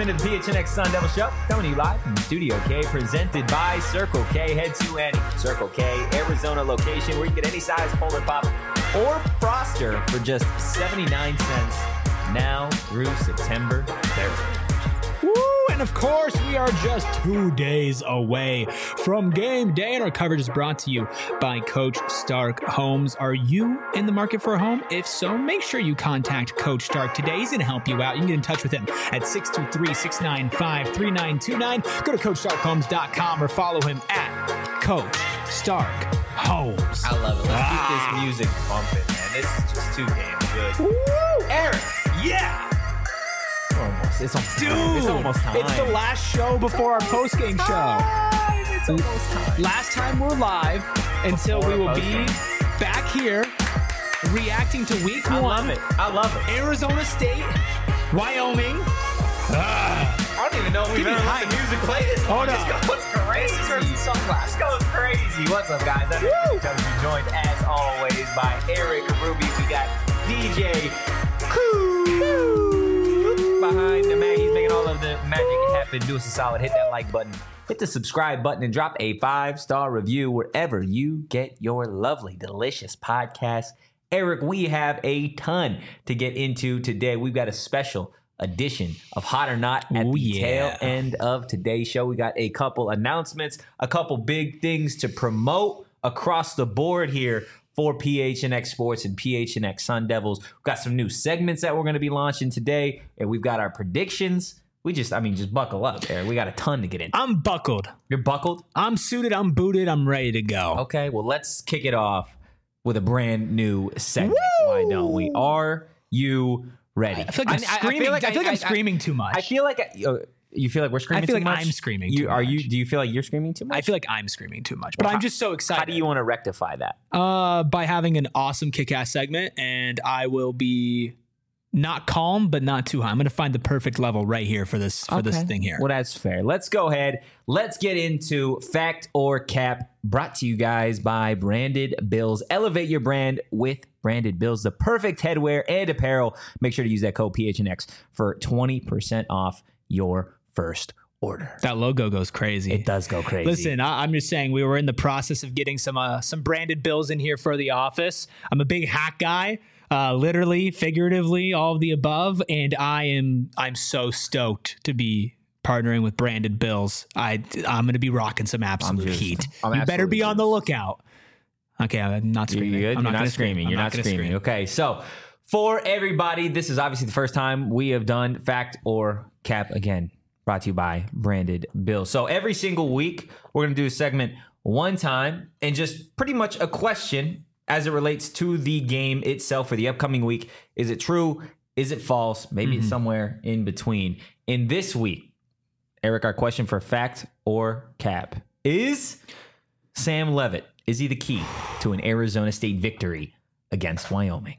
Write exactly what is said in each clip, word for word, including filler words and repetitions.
into the P H N X Sun Devil Show, coming to you live from Studio K, presented by Circle K. Head to any Circle K Arizona location where you get any size Polar Pop or Froster for just seventy-nine cents now through September third. Woo! And of course, we are just two days away from game day, and our coverage is brought to you by Coach Stark Homes. Are you in the market for a home? If so, make sure you contact Coach Stark today. He's going to help you out. You can get in touch with him at six two three, six nine five, three nine two nine. Go to coach stark homes dot com or follow him at Coach Stark Homes. I love it. Let's Ah. keep this music bumping, man. This is just too damn good. Woo! Eric, Yeah! almost. It's almost Dude, time. It's almost time. it's the last show before our post-game show. It's almost time. Last time we're live until Before we will post-game. be back here reacting to week I one. love it. I love it. Arizona State, Wyoming. Ah. I don't even know if we've Give me ever let hype. the music play this. Hold This up. goes crazy. This goes crazy. What's up, guys? I'm Eric W. Joined, as always, by Eric Ruby. We got D J Cool behind the mag. He's making all of the magic happen. Do us a solid. Hit that like button. Hit the subscribe button and drop a five-star review wherever you get your lovely, delicious podcast. Eric, we have a ton to get into today. We've got a special edition of Hot or Not at Ooh, the yeah. tail end of today's show. We got a couple announcements, a couple big things to promote across the board here for P H N X Sports and P H N X Sun Devils. We've got some new segments that we're going to be launching today, and we've got our predictions. We just, I mean, just buckle up, Eric. We got a ton to get into. I'm buckled. You're buckled? I'm suited. I'm booted. I'm ready to go. Okay, well, let's kick it off with a brand new segment. Woo! Why don't we? Are you ready? I feel like I'm screaming. I, feel like I'm screaming too much. I feel like I, uh, you feel like we're screaming. I feel too like much? I'm screaming You too are you? much. Do you feel like you're screaming too much? I feel like I'm screaming too much, but Well, I'm how- just so excited. How do you want to rectify that? Uh, by having an awesome kick-ass segment, and I will be not calm, but not too high. I'm going to find the perfect level right here for this for this Okay. thing here. Well, that's fair. Let's go ahead. Let's get into Fact or Cap, brought to you guys by Branded Bills. Elevate your brand with Branded Bills, the perfect headwear and apparel. Make sure to use that code P H N X for twenty percent off your first order. That logo goes crazy. It does go crazy. Listen, I, I'm just saying we were in the process of getting some uh, some branded bills in here for the office. I'm a big hat guy, uh, literally, figuratively, all of the above, and I am I'm so stoked to be partnering with Branded Bills. I I'm going to be rocking some absolute juiced. heat. I'm you better be absolutely on the juiced. looking. Okay, I'm not You're screaming. good? I'm You're not gonna screaming. I'm You're not gonna screaming. scream. Okay, so for everybody, this is obviously the first time we have done Fact or Cap again. Brought to you by Branded Bills. So every single week, we're going to do a segment one time and just pretty much a question as it relates to the game itself for the upcoming week. Is it true? Is it false? Maybe it's somewhere in between. In this week, Eric, our question for Fact or Cap is Sam Levitt. Is he the key to an Arizona State victory against Wyoming?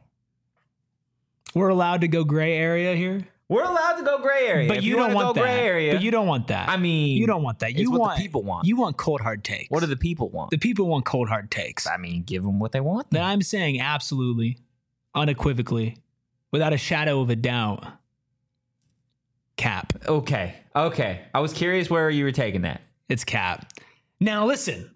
We're allowed to go gray area here, We're allowed to go gray area. but If you, don't wanna want go that. gray area. But you don't want that. I mean, you don't want that. it's You what the want people want. You want cold hard takes. What do the people want? the people want? Cold hard takes. I mean, give them what they want. Then I'm saying absolutely, unequivocally, without a shadow of a doubt, Cap. Okay. Okay. I was curious where you were taking that. It's Cap. Now listen,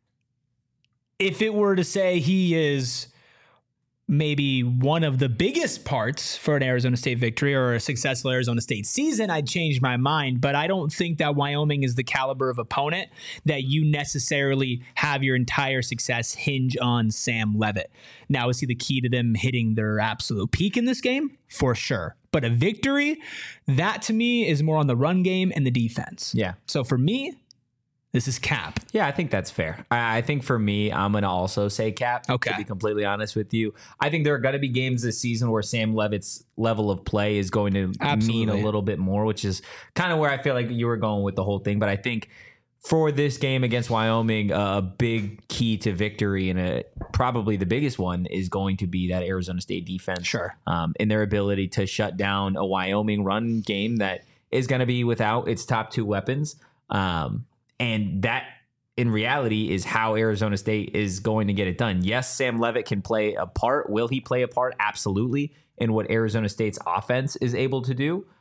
if it were to say he is maybe one of the biggest parts for an Arizona State victory or a successful Arizona State season, I'd change my mind. But I don't think that Wyoming is the caliber of opponent that you necessarily have your entire success hinge on Sam Levitt. Now, is he the key to them hitting their absolute peak in this game? For sure. But a victory, that to me is more on the run game and the defense. Yeah. So for me, this is Cap. Yeah, I think that's fair. I, I think for me, I'm going to also say Cap, Okay. to be completely honest with you. I think there are going to be games this season where Sam Levitt's level of play is going to Absolutely. mean a little bit more, which is kind of where I feel like you were going with the whole thing. But I think for this game against Wyoming, uh, a big key to victory and a, probably the biggest one is going to be that Arizona State defense. Sure. Um, in their ability to shut down a Wyoming run game that is going to be without its top two weapons. Um, and that, in reality, is how Arizona State is going to get it done. Yes, Sam Levitt can play a part. Will he play a part? Absolutely. In what Arizona State's offense is able to do.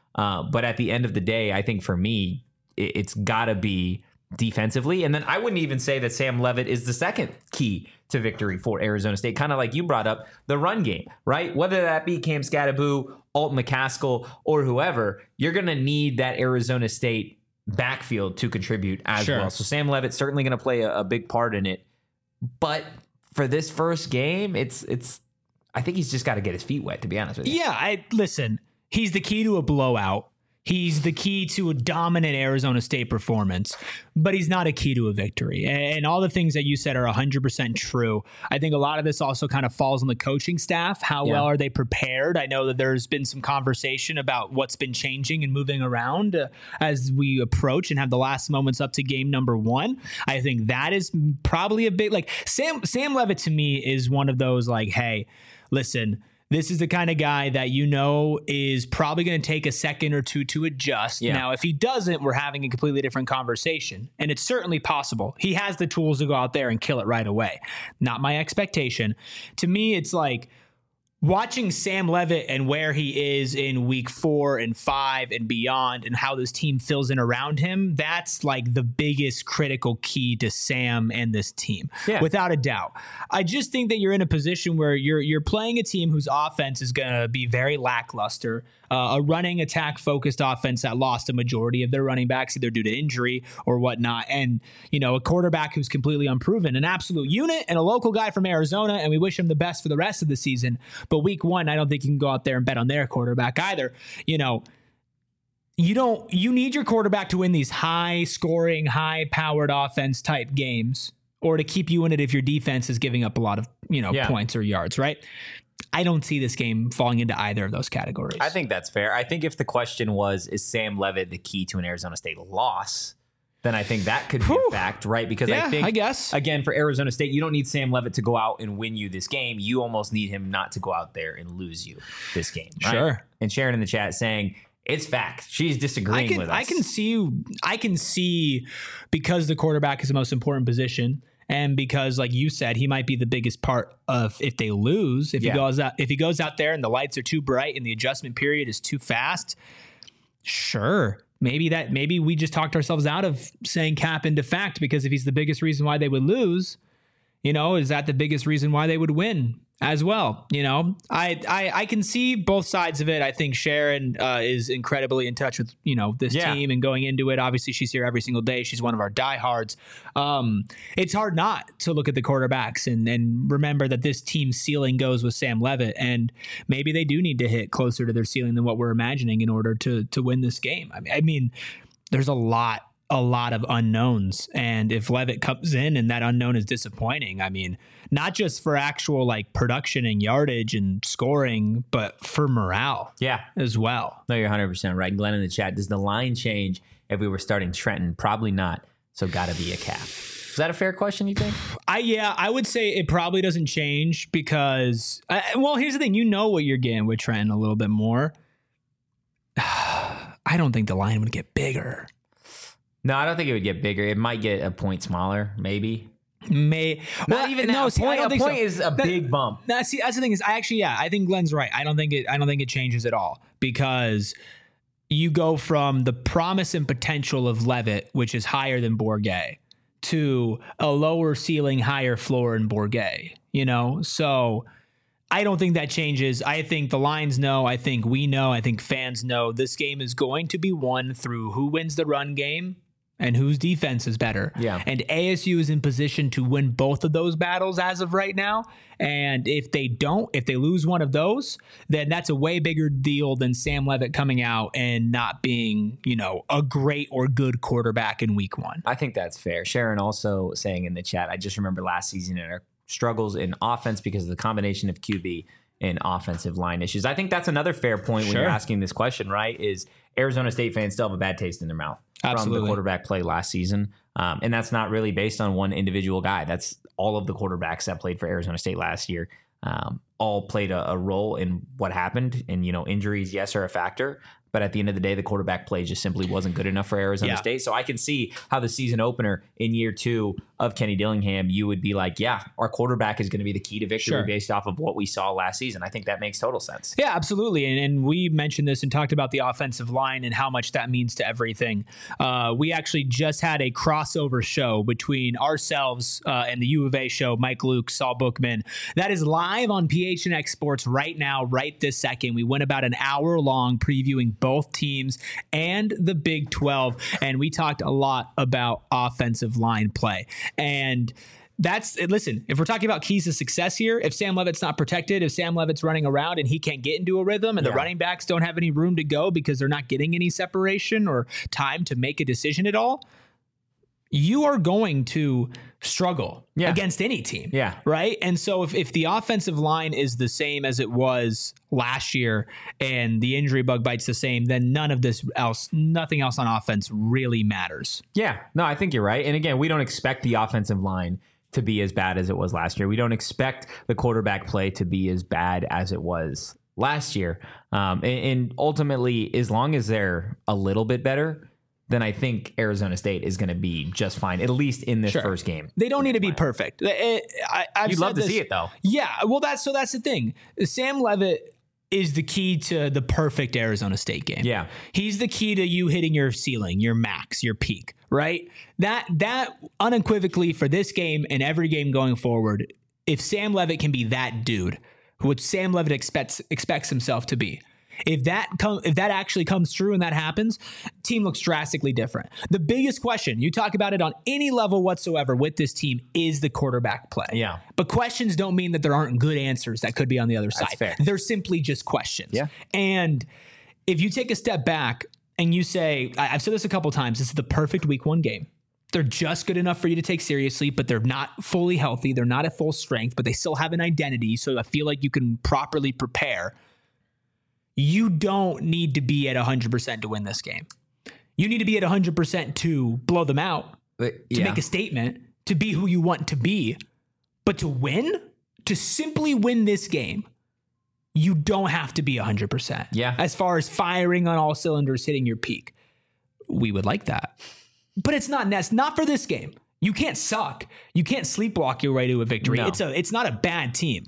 Uh, but at the end of the day, I think for me, it, it's got to be defensively. And then I wouldn't even say that Sam Levitt is the second key to victory for Arizona State. Kind of like you brought up, the run game, right? Whether that be Cam Scattaboo, Alton McCaskill, or whoever, you're going to need that Arizona State backfield to contribute as Sure. well. So Sam Levitt's certainly going to play a, a big part in it. But for this first game, it's it's. I think he's just got to get his feet wet, to be honest with you. Yeah, I listen. He's the key to a blowout. He's the key to a dominant Arizona State performance, but he's not a key to a victory. And all the things that you said are one hundred percent true. I think a lot of this also kind of falls on the coaching staff. How Yeah. well are they prepared? I know that there's been some conversation about what's been changing and moving around uh, as we approach and have the last moments up to game number one. I think that is probably a big, like Sam, Sam Levitt to me is one of those like, hey, listen, this is the kind of guy that you know is probably going to take a second or two to adjust. Yeah. Now, if he doesn't, we're having a completely different conversation. And it's certainly possible. He has the tools to go out there and kill it right away. Not my expectation. To me, it's like watching Sam Levitt and where he is in week four and five and beyond and how this team fills in around him. That's like the biggest critical key to Sam and this team, Yeah. without a doubt. I just think that you're in a position where you're you're playing a team whose offense is going to be very lackluster, uh, a running attack focused offense that lost a majority of their running backs either due to injury or whatnot, and you know a quarterback who's completely unproven, an absolute unit and a local guy from Arizona, and we wish him the best for the rest of the season. But week one, I don't think you can go out there and bet on their quarterback either. You know, you don't. You need your quarterback to win these high scoring, high powered offense type games, or to keep you in it if your defense is giving up a lot of you know Yeah. points or yards, right? I don't see this game falling into either of those categories. I think that's fair. I think if the question was, is Sam Levitt the key to an Arizona State loss, then I think that could be Whew. a fact, right? Because Yeah, I think, I guess. again, for Arizona State, you don't need Sam Levitt to go out and win you this game. You almost need him not to go out there and lose you this game. Right? Sure. And Sharon in the chat saying, it's fact. She's disagreeing I can, with us. I can see, I can see, because the quarterback is the most important position, and because, like you said, he might be the biggest part of if they lose. If Yeah. he goes out, if he goes out there and the lights are too bright and the adjustment period is too fast, sure, maybe that, maybe we just talked ourselves out of saying cap into fact, because if he's the biggest reason why they would lose, you know, is that the biggest reason why they would win as well? You know, I I, I can see both sides of it. I think Sharon uh, is incredibly in touch with, you know, this Yeah. team and going into it. Obviously, she's here every single day. She's one of our diehards. Um, it's hard not to look at the quarterbacks and, and remember that this team's ceiling goes with Sam Levitt. And maybe they do need to hit closer to their ceiling than what we're imagining in order to to win this game. I mean, I mean there's a lot a lot of unknowns. And if Levitt comes in and that unknown is disappointing, I mean, not just for actual like production and yardage and scoring, but for morale Yeah. as well. No, you're one hundred percent right. Glenn in the chat, does the line change if we were starting Trenton? Probably not. So got to be a cap. Is that a fair question, you think? I, yeah, I would say it probably doesn't change because, uh, well, here's the thing. You know what you're getting with Trenton a little bit more. I don't think the line would get bigger. No, I don't think it would get bigger. It might get a point smaller, maybe. May Not well, even that. no, a see, I point, don't a think point so. is a That- big bump. Now, see, that's the thing is, I actually, yeah, I think Glenn's right. I don't think it. I don't think it changes at all because you go from the promise and potential of Levitt, which is higher than Bourget, to a lower ceiling, higher floor in Bourget. You know, so I don't think that changes. I think the lines know. I think we know. I think fans know. This game is going to be won through who wins the run game and whose defense is better. Yeah. And A S U is in position to win both of those battles as of right now. And if they don't, if they lose one of those, then that's a way bigger deal than Sam Levitt coming out and not being, you know, a great or good quarterback in week one. I think that's fair. Sharon also saying in the chat, I just remember last season and our struggles in offense because of the combination of Q B and offensive line issues. I think that's another fair point when Sure. you're asking this question, right? Is Arizona State fans still have a bad taste in their mouth from Absolutely. the quarterback play last season. Um, and that's not really based on one individual guy. That's all of the quarterbacks that played for Arizona State last year. Um, all played a, a role in what happened. And, you know, injuries, yes, are a factor. But at the end of the day, the quarterback play just simply wasn't good enough for Arizona Yeah. State. So I can see how the season opener in year two of Kenny Dillingham, you would be like, yeah, our quarterback is going to be the key to victory Sure. based off of what we saw last season. I think that makes total sense. Yeah, absolutely. And, and we mentioned this and talked about the offensive line and how much that means to everything. Uh, we actually just had a crossover show between ourselves uh, and the U of A show, Mike Luke, Saul Bookman. That is live on P H N X Sports right now, right this second. We went about an hour long previewing both teams and the Big twelve, and we talked a lot about offensive line play. And that's listen, if we're talking about keys to success here, if Sam Leavitt's not protected, if Sam Leavitt's running around and he can't get into a rhythm and Yeah. the running backs don't have any room to go because they're not getting any separation or time to make a decision at all, you are going to struggle Yeah. against any team. Yeah. Right. And so if, if the offensive line is the same as it was last year and the injury bug bites the same, then none of this else, nothing else on offense really matters. Yeah, no, I think you're right. And again, we don't expect the offensive line to be as bad as it was last year. We don't expect the quarterback play to be as bad as it was last year. Um, and, and ultimately, as long as they're a little bit better, then I think Arizona State is going to be just fine, at least in this Sure. first game. They don't need to be perfect. It- I, I've You'd said love to this- see it, though. Yeah, well, that's so that's the thing. Sam Leavitt is the key to the perfect Arizona State game. Yeah. He's the key to you hitting your ceiling, your max, your peak, right? That that unequivocally for this game and every game going forward, if Sam Leavitt can be that dude, what Sam Leavitt expects expects himself to be. If that come, if that actually comes true and that happens, team looks drastically different. The biggest question, you talk about it on any level whatsoever with this team, is the quarterback play. Yeah. But questions don't mean that there aren't good answers that could be on the other side. fair. They're simply just questions. Yeah. And if you take a step back and you say, I- I've said this a couple times, this is the perfect week one game. They're just good enough for you to take seriously, but they're not fully healthy. They're not at full strength, but they still have an identity. So I feel like you can properly prepare. You don't need to be at one hundred percent to win this game. You need to be at one hundred percent to blow them out, But, to yeah. make a statement, to be who you want to be. But to win, to simply win this game, you don't have to be one hundred percent. Yeah. As far as firing on all cylinders, hitting your peak. We would like that. But it's not nec- not for this game. You can't suck. You can't sleepwalk your way to a victory. No. It's a it's not a bad team.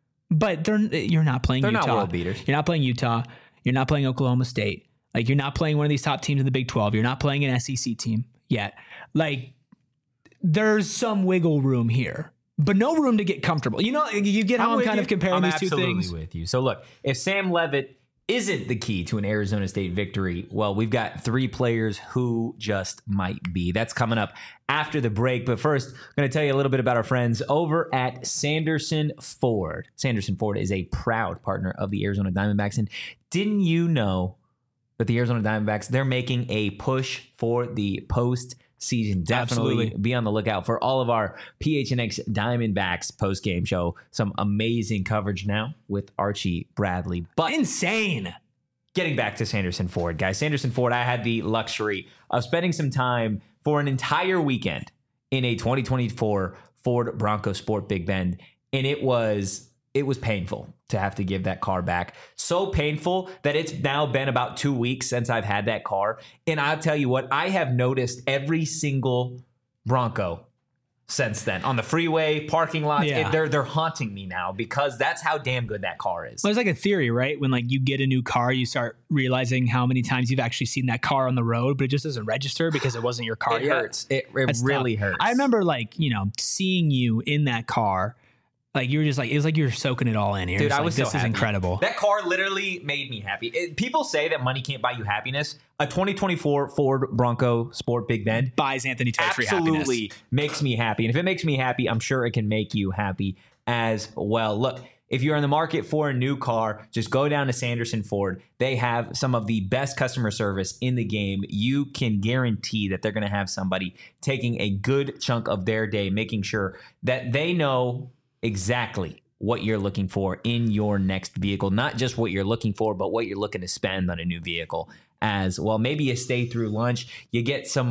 But they're you're not playing They're Utah. not world beaters. You're not playing Utah. You're not playing Oklahoma State. Like you're not playing one of these top teams in the Big twelve. You're not playing an S E C team yet. Like there's some wiggle room here, but no room to get comfortable. You know, you get how I'm, with kind you. of comparing I'm these two absolutely things. with you. So look, if Sam Leavitt isn't the key to an Arizona State victory, well, we've got three players who just might be. That's coming up after the break. But first, I'm going to tell you a little bit about our friends over at Sanderson Ford. Sanderson Ford is a proud partner of the Arizona Diamondbacks. And didn't you know that the Arizona Diamondbacks, they're making a push for the post season? Definitely Absolutely. be on the lookout for all of our P H N X Diamondbacks post game show. Some amazing coverage now with Archie Bradley. But Insane. getting back to Sanderson Ford, guys, Sanderson Ford, I had the luxury of spending some time for an entire weekend in a twenty twenty-four Ford Bronco Sport Big Bend, and it was it was painful to have to give that car back. So painful that it's now been about two weeks since I've had that car. And I'll tell you what, I have noticed every single Bronco since then on the freeway, parking lots. Yeah. It- they're they're haunting me now because that's how damn good that car is. Well, it's like a theory, right? When like you get a new car, you start realizing how many times you've actually seen that car on the road, but it just doesn't register because it wasn't your car It yet. hurts. It, it That's really tough. hurts. I remember like, you know, seeing you in that car. Like you were just like, it was like you were soaking it all in here. Dude, It's I like, was so this is happy. incredible. That car literally made me happy. It- people say that money can't buy you happiness. A twenty twenty-four Ford Bronco Sport Big Bend Buys Anthony Totri absolutely happiness. makes me happy. And if it makes me happy, I'm sure it can make you happy as well. Look, if you're in the market for a new car, just go down to Sanderson Ford. They have some of the best customer service in the game. You can guarantee that they're going to have somebody taking a good chunk of their day, making sure that they know exactly what you're looking for in your next vehicle. Not just what you're looking for, but what you're looking to spend on a new vehicle as well. Maybe you stay through lunch, you get some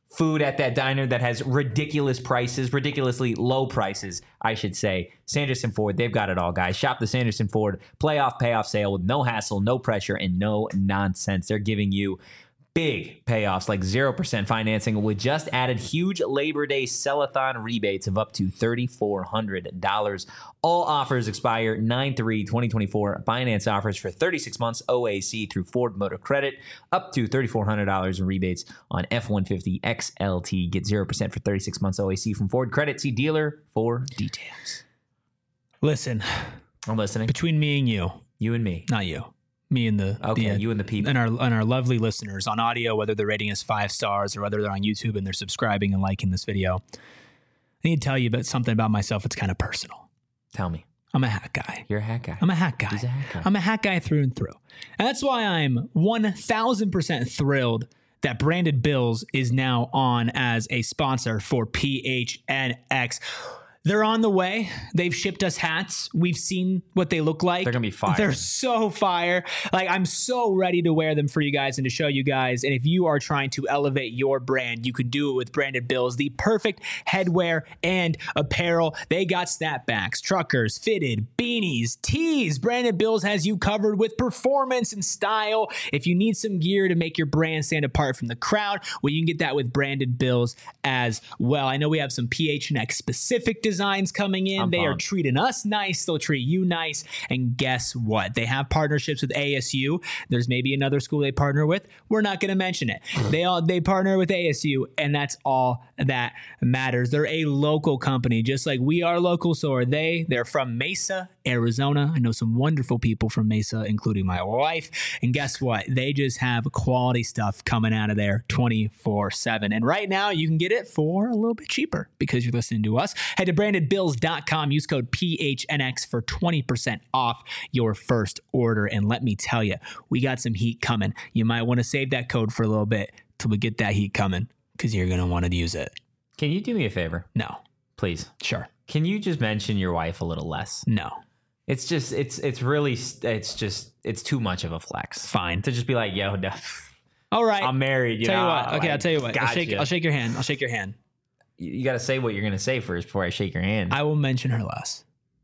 food at that diner that has ridiculous prices, ridiculously low prices, I should say. Sanderson Ford, they've got it all, guys. Shop the Sanderson Ford playoff payoff sale with no hassle, no pressure, and no nonsense. They're giving you big payoffs like zero percent financing with just added huge Labor Day sell-a-thon rebates of up to three thousand four hundred dollars. All offers expire nine three twenty twenty-four. Finance offers for thirty-six months O A C through Ford Motor Credit. Up to three thousand four hundred dollars in rebates on F one fifty X L T. Get zero percent for thirty-six months O A C from Ford Credit. See dealer for details. Listen, I'm listening. between me and you, You and me. not you, me and the Okay, the, uh, you and the people. and our and our lovely listeners on audio, whether they're rating us five stars or whether they're on YouTube and they're subscribing and liking this video. I need to tell you about something about myself. It's kind of personal. Tell me. I'm a hat guy. You're a hat guy. I'm a hat guy. He's a hat guy. I'm a hat guy through and through. And that's why I'm one thousand percent thrilled that Branded Bills is now on as a sponsor for P H N X. They're on the way. They've shipped us hats. We've seen what they look like. They're going to be fire. They're so fire. Like, I'm so ready to wear them for you guys and to show you guys. And if you are trying to elevate your brand, you can do it with Branded Bills, the perfect headwear and apparel. They got snapbacks, truckers, fitted, beanies, tees. Branded Bills has you covered with performance and style. If you need some gear to make your brand stand apart from the crowd, well, you can get that with Branded Bills as well. I know we have some P H N X specific designs coming in. I'm they are pumped. treating us nice. They'll treat you nice. And guess what? They have partnerships with A S U. There's maybe another school they partner with. We're not going to mention it. They all they partner with A S U, and that's all that matters. They're a local company, just like we are local. So are they. They're from Mesa, Arizona. I know some wonderful people from Mesa, including my wife. And guess what? They just have quality stuff coming out of there twenty-four seven. And right now, you can get it for a little bit cheaper because you're listening to us. Head to branded bills dot com. Use code P H N X for twenty percent off your first order. And let me tell you, we got some heat coming. You might want to save that code for a little bit till we get that heat coming because you're going to want to use it. Can you do me a favor? No. Please. Sure. Can you just mention your wife a little less? No. It's just, it's, it's really, it's just, it's too much of a flex. Fine. To just be like, yo, no, All right. I'm married. You tell know, you what. Okay, like, I'll tell you what. I'll gotcha. shake, I'll shake your hand. I'll shake your hand. You, you got to say what you're going to say first before I shake your hand. I, I will mention her less.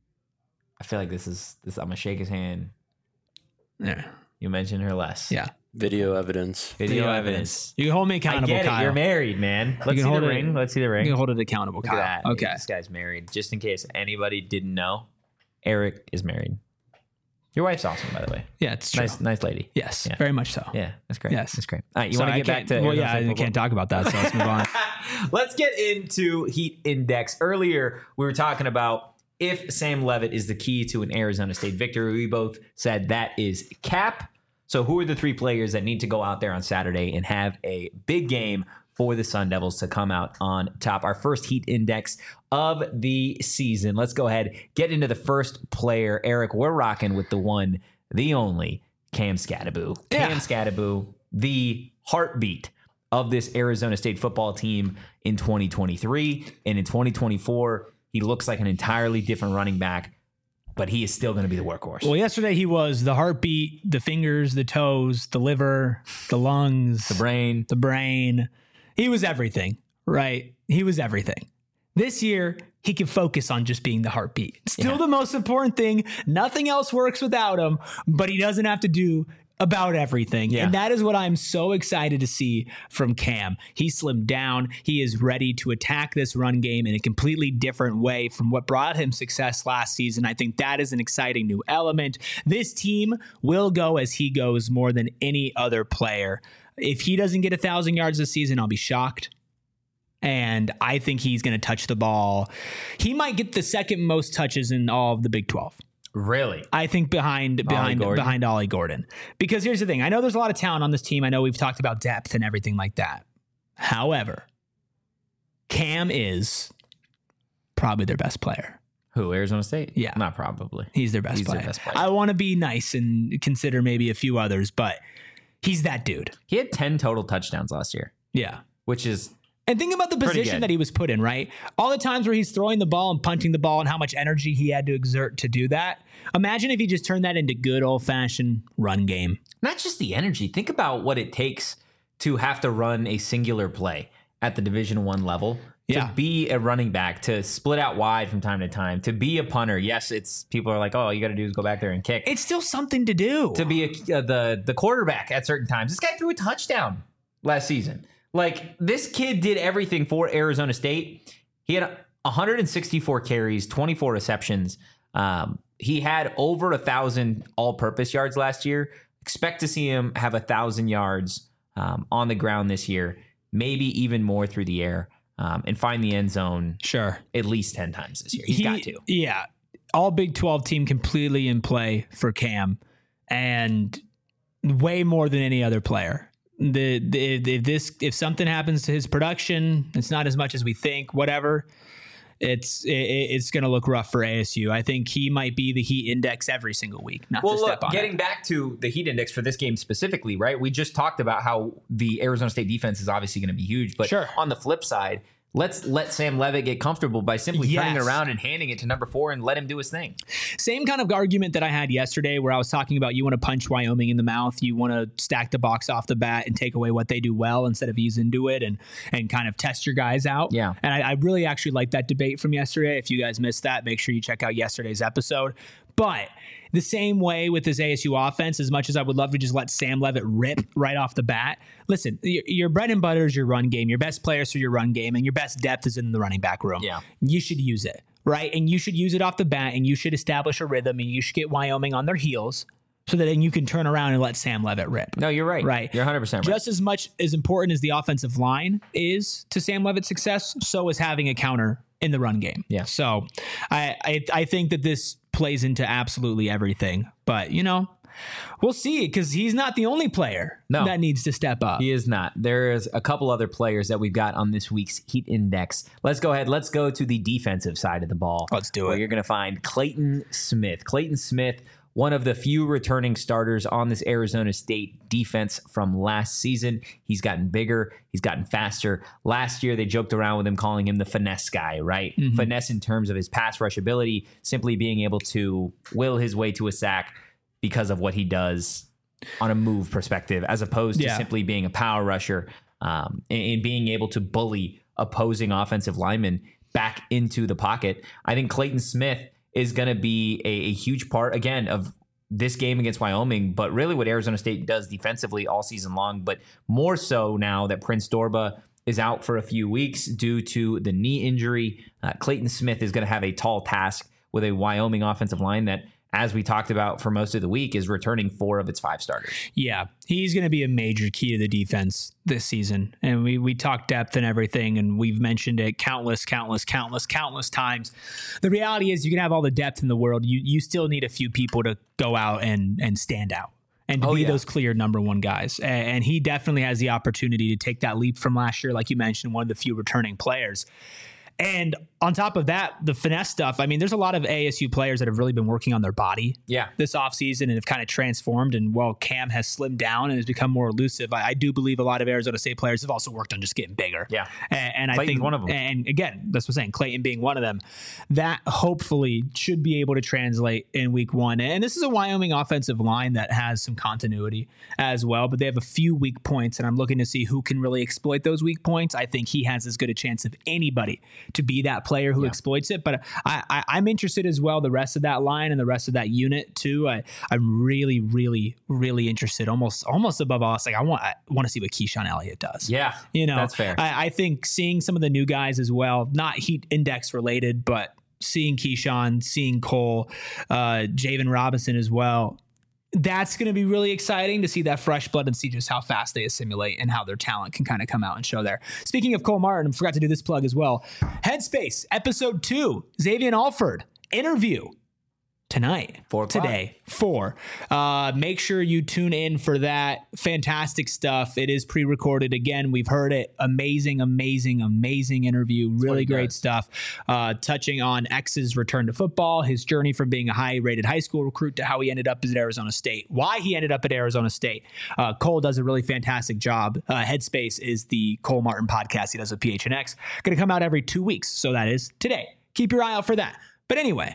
I feel like this is, this. I'm going to shake his hand. Yeah. You mention her less. Yeah. Video evidence. Video, Video evidence. You can hold me I accountable, get it. Kyle. You're married, man. Let's can see the hold it- ring. Let's see the ring. You can hold it accountable, Look Kyle. at that. Okay. This guy's married. Just in case anybody didn't know, Eric is married. Your wife's awesome, by the way. Yeah, it's true. Nice, nice lady. Yes, Yeah. very much so. Yeah, that's great. Yes. That's great. All right, you Sorry, want I to get back can't- to well, Arizona yeah, State I football? can't talk about that, so let's move on. Let's get into Heat Index. Earlier, we were talking about if Sam Levitt is the key to an Arizona State victory. We both said that is Cap. So who are the three players that need to go out there on Saturday and have a big game for the Sun Devils to come out on top? Our first Heat Index of the season. Let's go ahead, get into the first player. Eric, we're rocking with the one, the only, Cam Skattebo. Yeah. Cam Skattebo, the heartbeat of this Arizona State football team in twenty twenty-three. And in twenty twenty-four, he looks like an entirely different running back, but he is still going to be the workhorse. Well, yesterday he was the heartbeat, the fingers, the toes, the liver, the lungs, the brain. the brain. He was everything, right? He was everything. This year, he can focus on just being the heartbeat. Still Yeah. the most important thing. Nothing else works without him, but he doesn't have to do about everything. Yeah. And that is what I'm so excited to see from Cam. He slimmed down. He is ready to attack this run game in a completely different way from what brought him success last season. I think that is an exciting new element. This team will go as he goes more than any other player. If he doesn't get a thousand yards this season, I'll be shocked. And I think he's going to touch the ball. He might get the second most touches in all of the Big twelve. Really? I think behind behind Gordon? behind Ollie Gordon. Because here's the thing. I know there's a lot of talent on this team. I know we've talked about depth and everything like that. However, Cam is probably their best player. Who? Arizona State? Yeah. Not probably. He's their best He's their player. best player. I want to be nice and consider maybe a few others, but he's that dude. He had ten total touchdowns last year, Yeah. which is And think about the Pretty position good. that he was put in, right? All the times where he's throwing the ball and punting the ball and how much energy he had to exert to do that. Imagine if he just turned that into good old-fashioned run game. not just the energy. Think about what it takes to have to run a singular play. at the Division One level. Yeah. To be a running back, to split out wide from time to time, to be a punter. Yes, it's people are like, oh, all you got to do is go back there and kick. It's still something to do. To be a, uh, the the quarterback at certain times. This guy threw a touchdown last season. Like, this kid did everything for Arizona State. He had one hundred sixty-four carries, twenty-four receptions. Um, he had over a thousand all-purpose yards last year. Expect to see him have a thousand yards um, on the ground this year, maybe even more through the air. Um, and find the end zone sure at least ten times this year. He's he, got to. Yeah. All Big twelve team completely in play for Cam, and way more than any other player. The, the if this if something happens to his production, it's not as much as we think, whatever. It's it, it's going to look rough for A S U. I think he might be the heat index every single week. Not well, to step look, on getting it. back to the heat index for this game specifically, right? We just talked about how the Arizona State defense is obviously going to be huge, but Sure. on the flip side, let's let Sam Levitt get comfortable by simply Yes. turning it around and handing it to number four and let him do his thing. Same kind of argument that I had yesterday where I was talking about you want to punch Wyoming in the mouth. You want to stack the box off the bat and take away what they do well instead of ease into it and and kind of test your guys out. Yeah. And I, I really actually like that debate from yesterday. If you guys missed that, make sure you check out yesterday's episode. But the same way with this A S U offense, as much as I would love to just let Sam Levitt rip right off the bat, listen, your, your bread and butter is your run game. Your best players are your run game, and your best depth is in the running back room. Yeah. You should use it, right? And you should use it off the bat, and you should establish a rhythm, and you should get Wyoming on their heels so that then you can turn around and let Sam Levitt rip. No, you're right. Right. You're one hundred percent right. Just as much as important as the offensive line is to Sam Levitt's success, so is having a counter in the run game. Yeah. So I, I I think that this plays into absolutely everything. But, you know, we'll see, because he's not the only player No. that needs to step up. He is not. There's a couple other players that we've got on this week's Heat Index. Let's go ahead. Let's go to the defensive side of the ball. Let's do where it. You're going to find Clayton Smith. Clayton Smith, one of the few returning starters on this Arizona State defense from last season. He's gotten bigger. He's gotten faster. Last year, they joked around with him, calling him the finesse guy, right? Mm-hmm. Finesse in terms of his pass rush ability, simply being able to will his way to a sack because of what he does on a move perspective, as opposed to Yeah. simply being a power rusher um, and, and being able to bully opposing offensive linemen back into the pocket. I think Clayton Smith is going to be a, a huge part, again, of this game against Wyoming, but really what Arizona State does defensively all season long, but more so now that Prince Dorba is out for a few weeks due to the knee injury. Uh, Clayton Smith is going to have a tall task with a Wyoming offensive line that, as we talked about for most of the week, is returning four of its five starters. Yeah, he's going to be a major key to the defense this season. And we we talked depth and everything, and we've mentioned it countless, countless, countless, countless times. The reality is you can have all the depth in the world. You you still need a few people to go out and, and stand out and to Oh, be yeah. those clear number one guys. And, and he definitely has the opportunity to take that leap from last year, like you mentioned, one of the few returning players. And on top of that, the finesse stuff, I mean, there's a lot of A S U players that have really been working on their body Yeah. this offseason and have kind of transformed. And while Cam has slimmed down and has become more elusive, I, I do believe a lot of Arizona State players have also worked on just getting bigger. Yeah. And, and I Clayton's think one of them. And again, that's what I'm saying, Clayton being one of them, that hopefully should be able to translate in week one. And this is a Wyoming offensive line that has some continuity as well, but they have a few weak points, and I'm looking to see who can really exploit those weak points. I think he has as good a chance of anybody to be that player who Yeah. exploits it. But I, I, I'm interested as well, the rest of that line and the rest of that unit too. I, I'm really, really, really interested. Almost, almost above all else, like I want, I want to see what Keyshawn Elliott does. Yeah. You know, that's fair. I, I think seeing some of the new guys as well, not heat index related, but seeing Keyshawn, seeing Cole, uh, Javen Robinson as well. That's going to be really exciting to see that fresh blood and see just how fast they assimilate and how their talent can kind of come out and show there. Speaking of Cole Martin, I forgot to do this plug as well. Headspace, episode two, Xavier Alford interview tonight, Four o'clock. today, four. Uh, make sure you tune in for that. Fantastic stuff. It is pre-recorded. Again, we've heard it. Amazing, amazing, amazing interview. Really he great does. stuff. Uh, touching on X's return to football, his journey from being a high-rated high school recruit to how he ended up at Arizona State, why he ended up at Arizona State. Uh, Cole does a really fantastic job. Uh, Headspace is the Cole Martin podcast he does with P H N X. Going to come out every two weeks. So that is today. Keep your eye out for that. But anyway,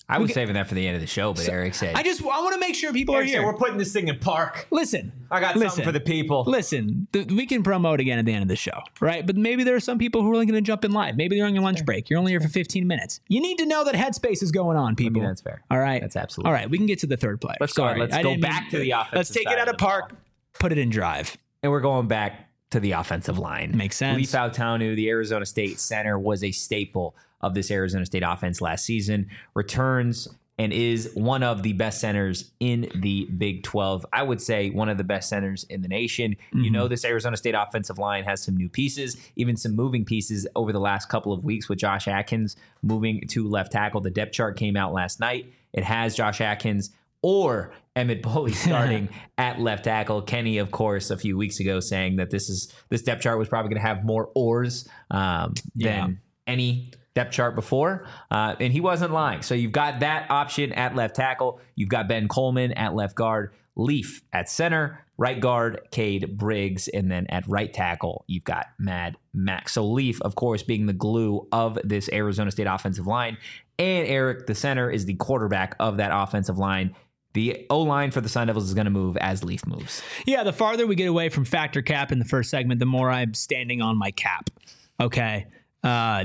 I We was get- saving that for the end of the show, but Eric said, I just I want to make sure people Eric are said, here. we're putting this thing in park. Listen, I got listen, something for the people. Listen, th- we can promote again at the end of the show, right? But maybe there are some people who are only going to jump in live. Maybe they're on your lunch break. You're only here for fifteen minutes. You need to know that headspace is going on, people. that's fair. All right, That's absolutely all right. We can get to the third player. Let's go. Sorry, Let's I go didn't back mean- to the offensive Let's take side it out of of the park, put it in drive. And we're going back to the offensive line. Makes sense. Lee Fautanu, the Arizona State center, was a staple of this Arizona State offense last season. Returns and is one of the best centers in the Big twelve. I would say one of the best centers in the nation. Mm-hmm. You know, this Arizona State offensive line has some new pieces, even some moving pieces over the last couple of weeks with Josh Atkins moving to left tackle. The depth chart came out last night. It has Josh Atkins or Emmett Pulley starting at left tackle. Kenny, of course, a few weeks ago saying that this is this depth chart was probably going to have more ors um, Yeah. than any depth chart before, uh, and he wasn't lying. So you've got that option at left tackle. You've got Ben Coleman at left guard, Leaf at center, right guard, Cade Briggs, and then at right tackle, you've got Mad Max. So Leaf, of course, being the glue of this Arizona State offensive line, and Eric, the center, is the quarterback of that offensive line. The O-line for the Sun Devils is going to move as Leaf moves. Yeah, the farther we get away from factor cap in the first segment, the more I'm standing on my cap. Okay. Uh,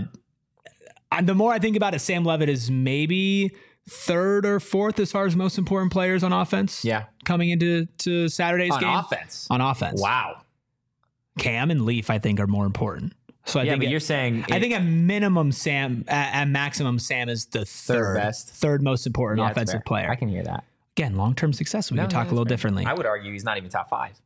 and the more I think about it, Sam Levitt is maybe third or fourth as far as most important players on offense. Yeah. Coming into to Saturday's On game. offense. On offense. Wow. Cam and Leaf, I think, are more important. So I Yeah, think but it- you're saying... I it- think at minimum, Sam, at, at maximum, Sam is the third, best. third most important Yeah, that's offensive fair. player. I can hear that. Again, long-term success. We No, can no, talk a that's little fair. differently. I would argue he's not even top five.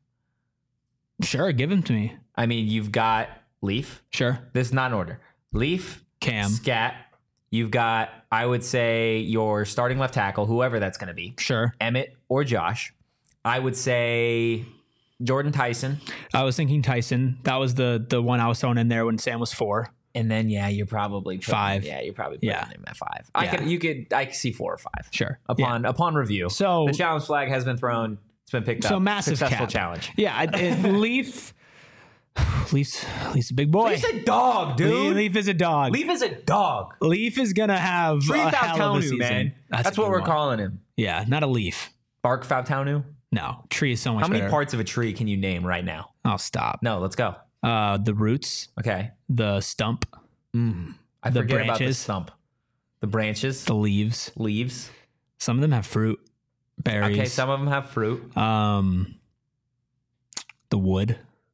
Sure, give him to me. I mean, you've got Leaf. Sure. This is not in order. Leaf, Cam. Scat. You've got, I would say, your starting left tackle, whoever that's going to be, Sure. Emmett or Josh. I would say Jordan Tyson. I was thinking Tyson. That was the the one I was throwing in there when Sam was four. And then, yeah, you're probably putting, Five. Yeah, you're probably putting Yeah. him at five. I Yeah. can, you could, I could see four or five. Sure. Upon upon review. So- the challenge flag has been thrown. It's been picked up. So massive Successful cap. challenge. Yeah, I, it, Leaf. Leaf's Leaf's a big boy. Leaf's a dog, dude. Leaf, Leaf is a dog. Leaf, Leaf is a dog. is gonna have Tree a hell of a Fautanu, season. man. That's, That's a what good we're one. calling him. Yeah, not a leaf. Bark Fautanu. No, tree is so much How many better. parts of a tree can you name right now? Oh, stop. No, let's go. Uh, the roots, Okay. the stump, I The forget about the branches. stump. The branches, the leaves. leaves. Some of them have fruit, berries. Okay, some of them have fruit. um, the wood.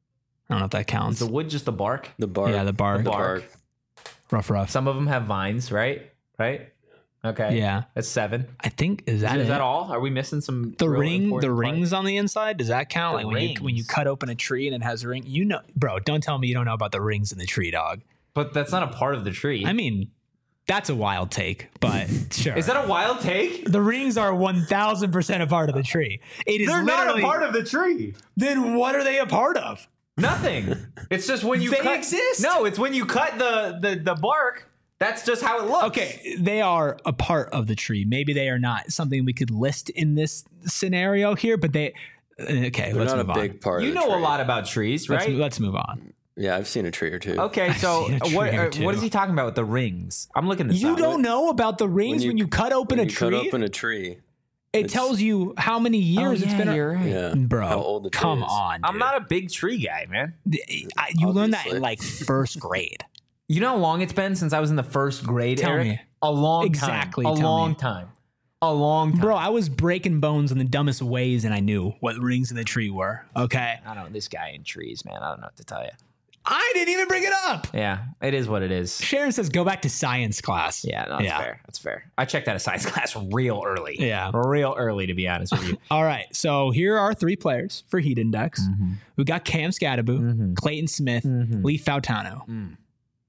I don't know if that Is counts. the wood just the bark? The bark. Yeah, the bark. The bark. bark. Rough, rough. Some of them have vines, right? Right? Okay. Yeah, That's seven. I think is that Is it? that all? Are we missing some The real ring, the important rings parts? on the inside. Does that count? The like when you when you rings. cut open a tree and it has a ring. You know, bro. Don't tell me you don't know about the rings in the tree, dog. But that's not a part of the tree. I mean, that's a wild take, but sure. Is that a wild take? the rings are one thousand percent a part of the tree? It is They're not a literally- part of the tree. Then what are they a part of? Nothing. It's just when you They cut, exist? No, it's when you cut the, the the bark. That's just how it looks. Okay, they are a part of the tree. Maybe they are not something we could list in this scenario here, but they. Okay, They're let's not a move on. big part You of the know a tree. lot about trees, Let's, right? let's move on. Yeah, I've seen a tree or two. Okay, so seen a tree what or uh, two. what is he talking about with the rings? I'm looking this You up. don't know about the rings when you, cut open when a you tree. cut open a tree. it tells you how many years it's been. Oh, you're right. Yeah. Bro, How old the tree come is. on. I'm dude. not a big tree guy, man. I, you learned that in Obviously. like first grade. You know how long it's been since I was in the first grade, Tell Eric? me. A long Exactly, time. A tell long me. time. A long time. Bro, I was breaking bones in the dumbest ways, and I knew what rings in the tree were. Okay, I don't know. This guy in trees, man. I don't know what to tell you. I didn't even bring it up. Yeah, it is what it is. Sharon says, "Go back to science class." Yeah, no, that's Yeah. fair. That's fair. I checked out of science class real early. Yeah. Real early, to be honest with you. All right, so here are three players for Heat Index. Mm-hmm. We got Cam Scadaboo, Clayton Smith, Lee Fautanu. Mm.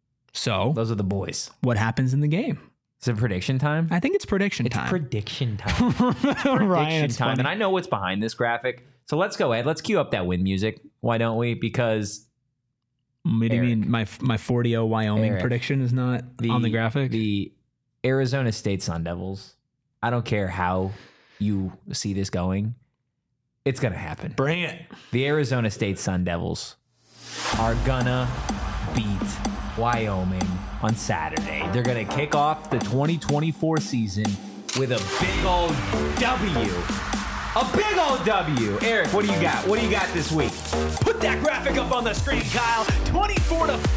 So, Those are the boys. what happens in the game? Is it prediction time? I think it's prediction It's time. prediction time. Ryan, prediction it's time. funny. And I know what's behind this graphic. So let's go ahead. Let's cue up that win music. Why don't we? Because What do you Eric. mean my my forty oh Wyoming Eric. prediction is not on the graphic? The Arizona State Sun Devils, I don't care how you see this going, it's going to happen. Bring it. The Arizona State Sun Devils are gonna beat Wyoming on Saturday. They're gonna kick off the twenty twenty-four season with a big old W. A big old W. Eric, what do you got? What do you got this week? Put that graphic up on the screen, Kyle. twenty-four to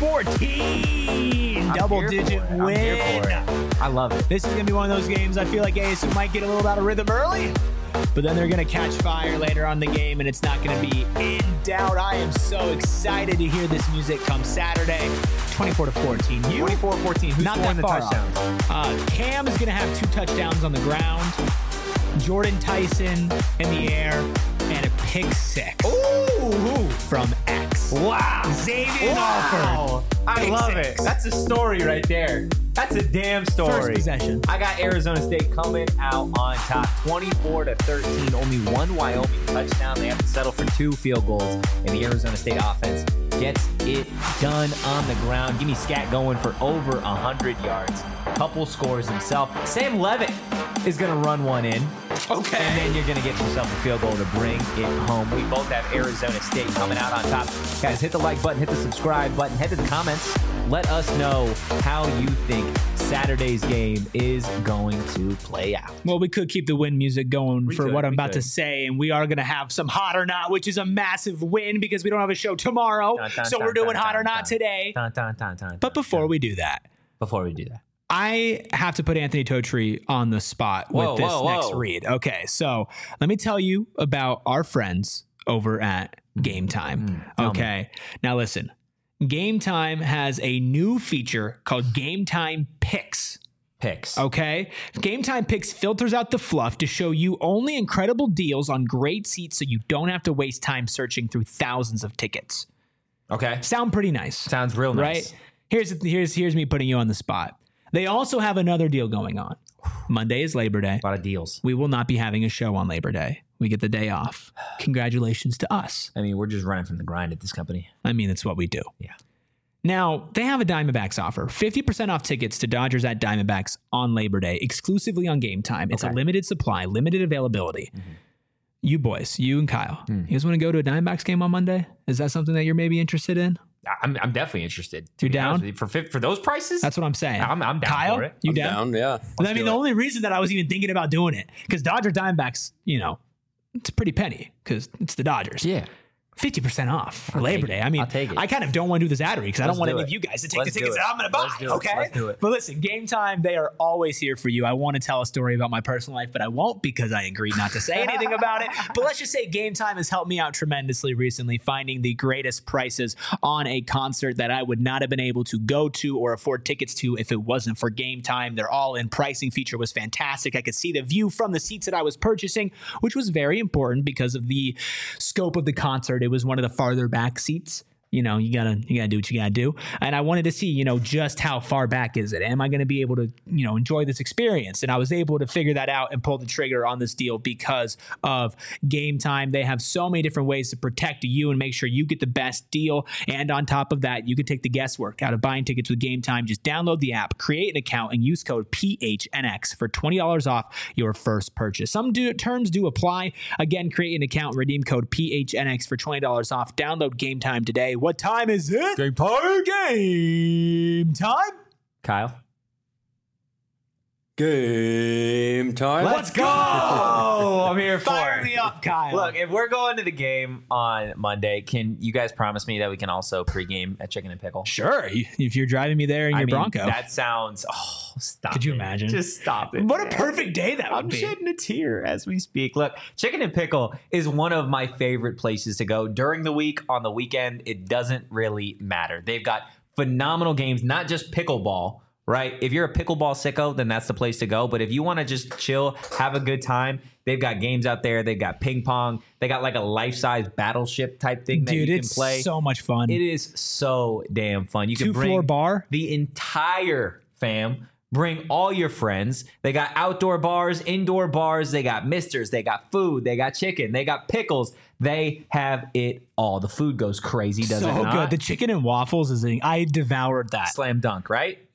fourteen. I'm Double here digit for it. I'm win. here for it. I love it. This is going to be one of those games I feel like A S U might get a little out of rhythm early, but then they're going to catch fire later on in the game, and it's not going to be in doubt. I am so excited to hear this music come Saturday. twenty-four to fourteen. You? twenty-four fourteen. Who's Not scoring that the far touchdowns? off. Uh, Cam is going to have two touchdowns on the ground. Jordan Tyson in the air, and a pick six. Ooh. From X. Wow. Xavier Alford. Wow. I Pick love six. it. That's a story right there. That's a damn story. First possession. I got Arizona State coming out on top, twenty-four to thirteen. Only one Wyoming touchdown. They have to settle for two field goals, and the Arizona State offense gets it done on the ground. Give me Scat going for over one hundred yards. Couple scores himself. Sam Levitt is going to run one in. Okay. And then you're going to get yourself a field goal to bring it home. We both have Arizona State coming out on top. Guys, hit the like button, hit the subscribe button, head to the comments. Let us know how you think Saturday's game is going to play out. Well, we could keep the win music going We for could, what I'm we about could. to say, and we are going to have some Hot or Not, which is a massive win because we don't have a show tomorrow. Dun, dun, so dun, we're doing dun, Hot dun, or Not dun. today. Dun, dun, dun, dun, But dun, before dun. we do that, Before we do that. I have to put Anthony Totri on the spot Whoa, with this whoa, next whoa. read. Okay, so let me tell you about our friends over at Game Time. Mm, tell Okay, now listen. Game Time has a new feature called Game Time Picks. Picks. Okay. Game Time Picks filters out the fluff to show you only incredible deals on great seats so you don't have to waste time searching through thousands of tickets. Okay. Sound pretty nice. Sounds real nice. Right? Here's here's here's me putting you on the spot. They also have another deal going on. Monday is Labor Day. A lot of deals. We will not be having a show on Labor Day. We get the day off. Congratulations to us. I mean, we're just running from the grind at this company. I mean, it's what we do. Yeah. Now, they have a Diamondbacks offer. fifty percent off tickets to Dodgers at Diamondbacks on Labor Day, exclusively on Game Time. It's Okay. a limited supply, limited availability. Mm-hmm. You boys, you and Kyle, Mm. you guys want to go to a Diamondbacks game on Monday? Is that something that you're maybe interested in? I'm, I'm definitely interested. to You're be honest down? with you. For fif- for those prices? That's what I'm saying. I'm, I'm down Kyle, for it. you I'm down? down, yeah. I Let's mean, do the it. only reason that I was even thinking about doing it, because Dodger Diamondbacks, you know, it's a pretty penny because it's the Dodgers. Yeah. fifty percent off for I'll Labor take it. Day. I mean, I'll take it. I kind of don't want to do this ad read because I don't Let's want do any of it. you guys to take Let's the do tickets it. that I'm going to buy. Let's do it. Okay. Let's do it. But listen, Game Time, they are always here for you. I want to tell a story about my personal life, but I won't because I agreed not to say anything about it. But let's just say Game Time has helped me out tremendously recently, finding the greatest prices on a concert that I would not have been able to go to or afford tickets to if it wasn't for Game Time. Their all-in pricing feature was fantastic. I could see the view from the seats that I was purchasing, which was very important because of the scope of the concert. It was one of the farther back seats. You know, you gotta you gotta do what you gotta do. And I wanted to see, you know, just how far back is it? Am I gonna be able to, you know, enjoy this experience? And I was able to figure that out and pull the trigger on this deal because of Game Time. They have so many different ways to protect you and make sure you get the best deal. And on top of that, you can take the guesswork out of buying tickets with Game Time. Just download the app, create an account, and use code P H N X for twenty dollars off your first purchase. Some do, terms do apply. Again, create an account, redeem code P H N X for twenty dollars off. Download Game Time today. What time is it? Game time. Game time. Kyle. Game time. Let's go. I'm here for Fire it. me up, Kyle. Look, if we're going to the game on Monday, can you guys promise me that we can also pregame at Chicken and Pickle? Sure. If you're driving me there in I your mean, Bronco. That sounds. Oh, stop! Could you it. imagine? Just stop it. What a man. perfect day that would I'm be. shedding a tear as we speak. Look, Chicken and Pickle is one of my favorite places to go during the week. On the weekend, it doesn't really matter. They've got phenomenal games, not just pickleball, right? If you're a pickleball sicko, then that's the place to go. But if you want to just chill, have a good time, they've got games out there. They've got ping pong. They got like a life-size battleship type thing that Dude, you can it's play. so much fun. It is so damn fun. You can Two bring floor bar. the entire fam. Bring all your friends. They got outdoor bars, indoor bars. They got misters. They got food. They got chicken. They got pickles. They have it all. The food goes crazy, does so it not? good. The chicken and waffles is a, I devoured that. Slam dunk, right? Yeah.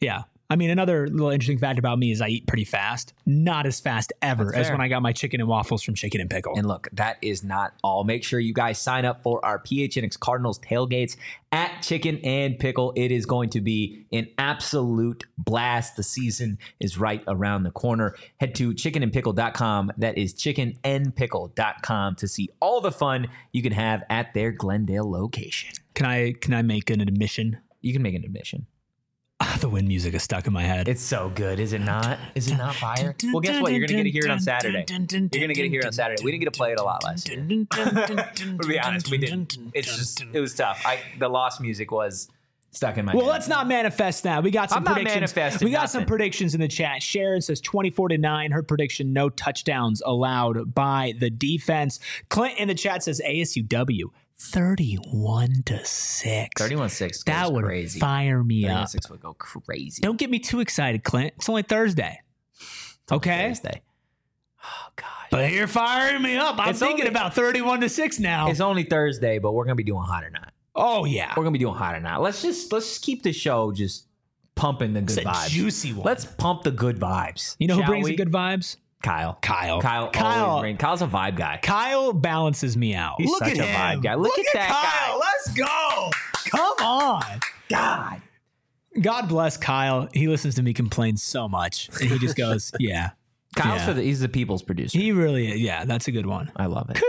I mean, another little interesting fact about me is I eat pretty fast. Not as fast ever That's as fair. when I got my chicken and waffles from Chicken and Pickle. And look, that is not all. Make sure you guys sign up for our P H N X Cardinals tailgates at Chicken and Pickle. It is going to be an absolute blast. The season is right around the corner. Head to chicken and pickle dot com. That is chicken and pickle dot com to see all the fun you can have at their Glendale location. Can I can I make an admission? You can make an admission. Ah, the wind music is stuck in my head. It's so good, is it not? Is it not fire? Well, guess what? You're going to get to hear it on Saturday. You're going to get to hear it on Saturday. We didn't get to play it a lot last year. To be honest, we didn't. It's just, it was tough. I, the lost music was stuck in my Well, head. let's not manifest now. We got some I'm not predictions. manifesting We got some nothing. predictions in the chat. Sharon says twenty-four to nine. Her prediction: no touchdowns allowed by the defense. Clint in the chat says A S U W thirty-one to six. thirty-one six That goes would crazy. fire me thirty-one up. six would go crazy. Don't get me too excited, Clint. It's only Thursday. Okay. Thursday. Oh, gosh. But you're firing me up. I'm It's thinking only- about thirty-one to six now. It's only Thursday, but we're going to be doing hot or not. Oh, yeah. We're going to be doing hot or not. Let's just, let's just keep the show just pumping the good It's a vibes. juicy one. Let's pump the good vibes. You know who shall brings we? the good vibes? Kyle. Kyle. Kyle. Kyle. Always brings. Kyle's a vibe guy. Kyle balances me out. He's Look such at a him. vibe guy. Look at that Kyle. guy. Let's go. Come on. God. God bless Kyle. He listens to me complain so much. And he just goes, yeah. Kyle's Yeah. for the, he's the people's producer. He really is. Yeah, that's a good one. I love it.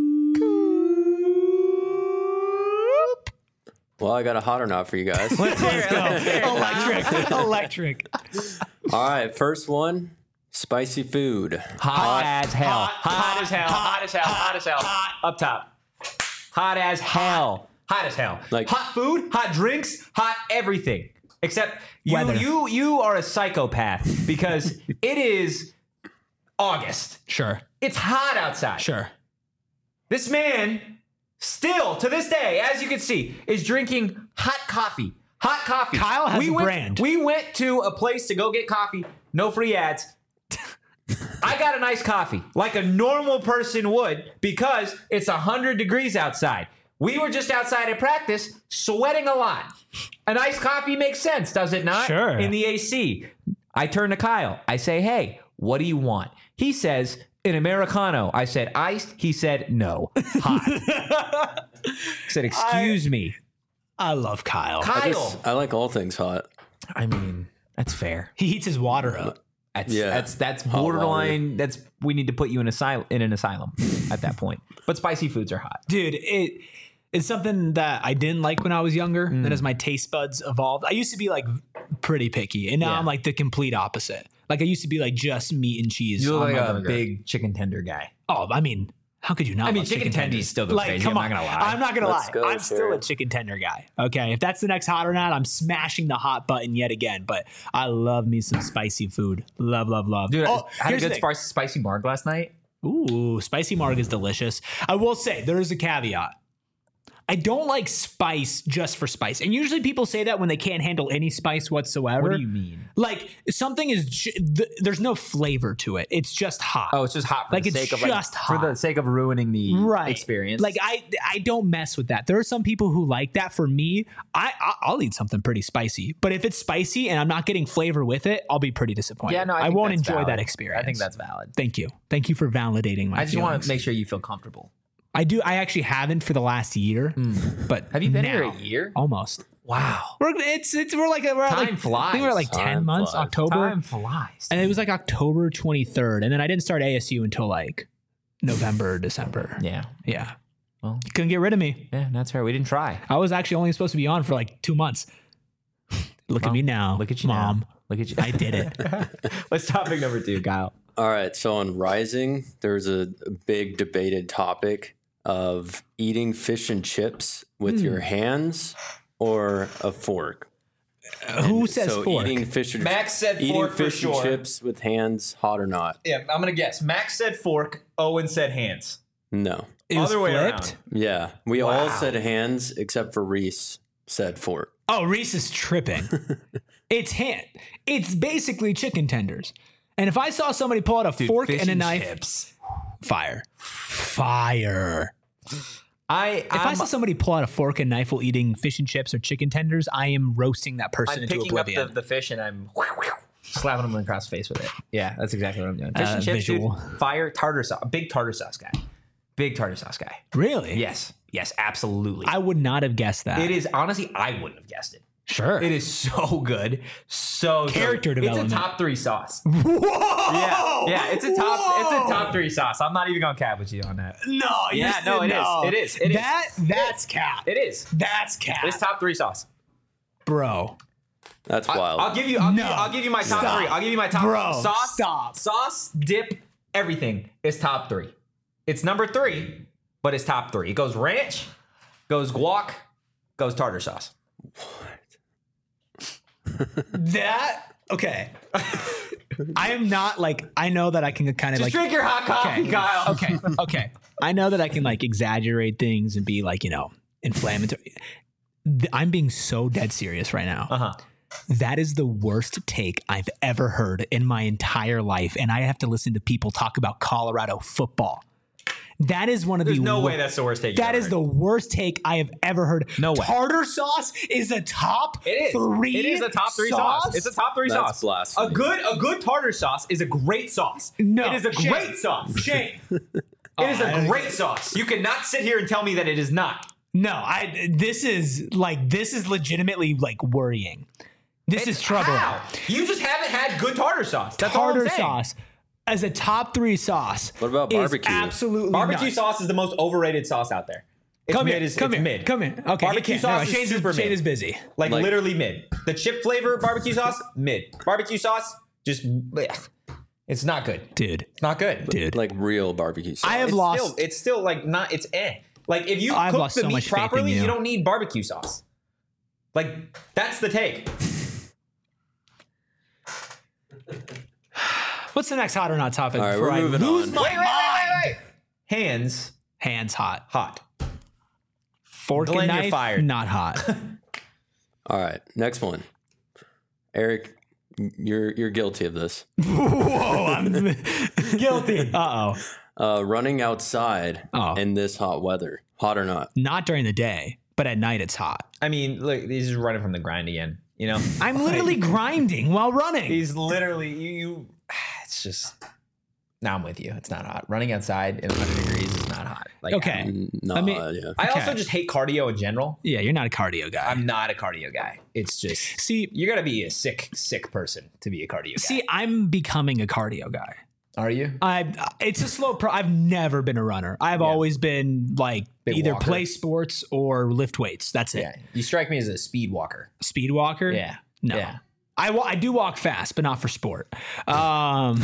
Well, I got a hot or not for you guys. Let's hear it. Let's hear it. Electric. Electric. All right, first one, spicy food. Hot, as hell. Hot, hot, as hell. hot, Hot, as hell. Hot, as hell. hot. Up top. Hot as hell. Hot as hell. Like- hot food, hot drinks, hot everything. Except you, Weather. you, you are a psychopath because it is August. Sure. It's hot outside. Sure. This man, still to this day, as you can see, is drinking hot coffee. Hot coffee. Kyle has we a went, brand. We went to a place to go get coffee. No free ads. I got a nice coffee, like a normal person would, because it's one hundred degrees outside. We were just outside at practice, sweating a lot. A nice coffee makes sense, does it not? Sure. In the A C. I turn to Kyle. I say, hey, what do you want? He says, an Americano. I said, iced. He said, no, hot. I said, excuse me. I love Kyle. Kyle. I, just, I like all things hot. I mean, that's fair. He heats his water up. That's Yeah. that's that's Hot borderline. That's we need to put you in asylum in an asylum at that point. But spicy foods are hot. Dude, it it's something that I didn't like when I was younger. Mm. Then as my taste buds evolved, I used to be like pretty picky, and now Yeah. I'm like the complete opposite. Like I used to be like just meat and cheese. You look on like my a burger. big chicken tender guy. Oh, I mean, how could you not? I mean, love chicken tenders? tendies still go like, crazy, Come I'm on, not gonna lie. I'm not gonna Let's lie. go, I'm still Sharon. a chicken tender guy. Okay, if that's the next hot or not, I'm smashing the hot button yet again. But I love me some spicy food. Love, love, love. Dude, oh, I had a here's the good thing. spicy spicy marg last night. Ooh, spicy marg is delicious. I will say there is a caveat. I don't like spice just for spice. And usually people say that when they can't handle any spice whatsoever. What do you mean? Like something is, ju- th- there's no flavor to it. It's just hot. Oh, it's just hot for Like, the it's sake of just like, for the hot. sake of ruining the right. experience. Like I, I don't mess with that. There are some people who like that. For me, I, I I'll eat something pretty spicy. But if it's spicy and I'm not getting flavor with it, I'll be pretty disappointed. yeah, no, I, I, think won't that's enjoy valid. that experience. I think that's valid. Thank you. Thank you for validating my I just want feelings. to make sure you feel comfortable. I do. I actually haven't for the last year, but Have you been now, here a year? Almost. Wow. We're it's it's we're like we're at Time like, flies. I think we're at like ten Time months. flies. October, Time flies. and it was like October twenty-third, and then I didn't start A S U until like November, or December. Yeah. Yeah. Well. You couldn't get rid of me. Yeah, that's fair. We didn't try. I was actually only supposed to be on for like two months. Look Well, at me now. Look at you Mom. now. Look at you. I did it. What's topic number two, Kyle? All right, so on Rising, there's a big debated topic of eating fish and chips with your hands or a fork. Who says so fork? eating fish and Max said eating fork for fish sure. and chips with hands, hot or not? Yeah, I'm gonna guess. Max said fork. Owen said hands. No. It was Other way flipped. around. Yeah, we all Wow. said hands except for Reese said fork. Oh, Reese is tripping. It's hand. It's basically chicken tenders. And if I saw somebody pull out a Dude, fork fish and a knife, chips. fire, fire. I If I saw somebody pull out a fork and knife while eating fish and chips or chicken tenders, I am roasting that person I'm into picking up oblivion. the, the fish and I'm slapping them across the face with it. Yeah, that's exactly what I'm doing. Fish Uh, and chips, dude. visual. Fire tartar sauce. Big tartar sauce guy. Big tartar sauce guy. Really? Yes. Yes, absolutely. I would not have guessed that. It is honestly, I wouldn't have guessed it. Sure. It is so good. So Character so good. development. It's a top three sauce. Whoa! Yeah, yeah. It's a top. Whoa! It's a top three sauce. I'm not even gonna cap with you on that. No, Yeah, yes, no, it is. no. It is. It is. that, That's cap. It is. That's cap. It's top three sauce. Bro. That's I- wild. I'll give you. I'll, No. give you I'll give you my top Stop. three. I'll give you my top Bro, sauce. stop. Sauce, dip, everything is top three. It's number three, but it's top three. It goes ranch, goes guac, goes tartar sauce. That, okay. I am not like, I know that I can kind of Just like. drink your hot coffee, Okay. Kyle. Okay. Okay. I know that I can like exaggerate things and be like, you know, inflammatory. Th- I'm being so dead serious right now. Uh huh. That is the worst take I've ever heard in my entire life. And I have to listen to people talk about Colorado football. That is one of There's the no wor- way that's the worst take. That is the worst take I have ever heard. No way. Tartar sauce is a top It is. three. It is a top three sauce. It's a top three That's sauce. blasphemy. A good a good tartar sauce is a great sauce. No, it is a Shane. great sauce. Shane. It is I- a great sauce. You cannot sit here and tell me that it is not. No, I. This is like this is legitimately like worrying. This is trouble. How? You just haven't had good tartar sauce. That's all I'm Tartar saying. sauce as a top three sauce. What about is barbecue? Absolutely, Barbecue nuts. sauce is the most overrated sauce out there. It's Come mid. here, Is, come it's here, mid. come here. Okay, Barbecue he can't. sauce No, is Shane's, super Shane mid. is busy. Like, Like- literally mid. The chip flavor barbecue sauce, mid. Barbecue sauce, just blech. It's not good. Dude, It's not good. dude. Like real barbecue sauce. I have It's lost. Still, it's still like not. It's eh. Like if you I've cook lost the so meat much faith in properly, you. you don't need barbecue sauce. Like that's the take. What's the next hot or not topic? All right, before we're I moving lose on. my Wait, wait, mind? wait, wait, wait. Hands Hands hot. hot. Fork Glenn, and you're knife fired. not hot. All right, next one. Eric, you're you're guilty of this. Whoa, I'm guilty. Uh oh. Uh, running outside Oh. in this hot weather, hot or not. Not during the day, but at night it's hot. I mean, look, he's just running from the grind again. You know, I'm literally grinding while running. he's literally you. you it's just. Now I'm with you. It's not hot. Running outside in one hundred degrees is not hot. Like Okay. Mm, No, I mean- yeah. I Okay. also just hate cardio in general. Yeah, you're not a cardio guy. I'm not a cardio guy. It's just see, you got to be a sick, sick person to be a cardio guy. see, I'm becoming a cardio guy. Are you? I it's a slow pro. I've never been a runner. I've Yeah. always been like Big either walker. play sports or lift weights. That's it. Yeah. You strike me as a speed walker. Speed walker. Yeah. No. Yeah. I, wa- I do walk fast, but not for sport. Um,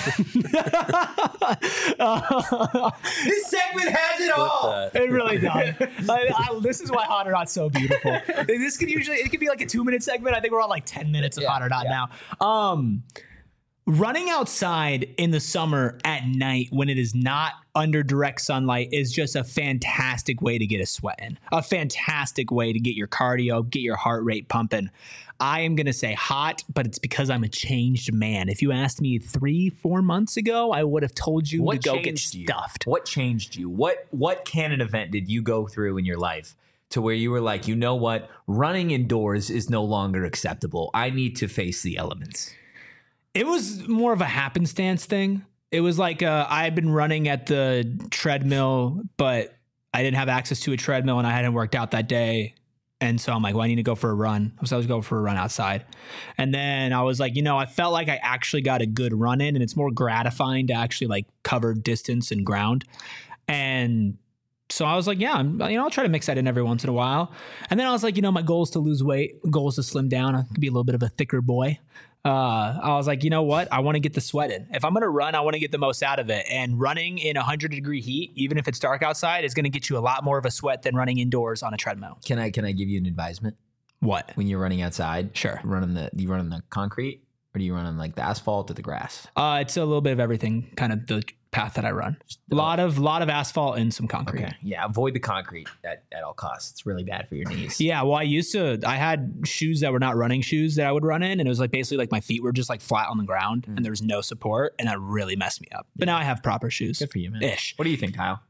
This segment has it all. Uh, it really does. I, I, this is why Hot or Not so beautiful. This could usually it could be like a two minute segment. I think we're on like ten minutes of Yeah, Hot or Not yeah. now. Um, running outside in the summer at night when it is not under direct sunlight is just a fantastic way to get a sweat in. A fantastic way to get your cardio, get your heart rate pumping. I am going to say hot, but it's because I'm a changed man. If you asked me three, four months ago, I would have told you What to go get changed you? stuffed. What changed you? What what canon event did you go through in your life to where you were like, you know what, running indoors is no longer acceptable. I need to face the elements. It was more of a happenstance thing. It was like uh, I had been running at the treadmill, but I didn't have access to a treadmill and I hadn't worked out that day. And so I'm like, well, I need to go for a run. So I was going for a run outside. And then I was like, you know, I felt like I actually got a good run in and it's more gratifying to actually like cover distance and ground. And so I was like, yeah, I'm, you know, I'll try to mix that in every once in a while. And then I was like, you know, my goal is to lose weight, goal is to slim down. I could be a little bit of a thicker boy. Uh, I was like, you know what? I want to get the sweat in. If I'm going to run, I want to get the most out of it. And running in one hundred degree heat, even if it's dark outside, is going to get you a lot more of a sweat than running indoors on a treadmill. Can I can I give you an advisement? What? When you're running outside, Sure. running the do you run on the concrete or do you run on like the asphalt or the grass? Uh, it's a little bit of everything, kind of the path that I run. A lot of lot of asphalt and some concrete. Okay. Yeah, avoid the concrete at, at all costs. It's really bad for your knees. Yeah, well, I used to. I had shoes that were not running shoes that I would run in, and it was like basically like my feet were just like flat on the ground, and there was no support, and that really messed me up. But now I have proper shoes. Good for you, man. Ish. What do you think, Kyle?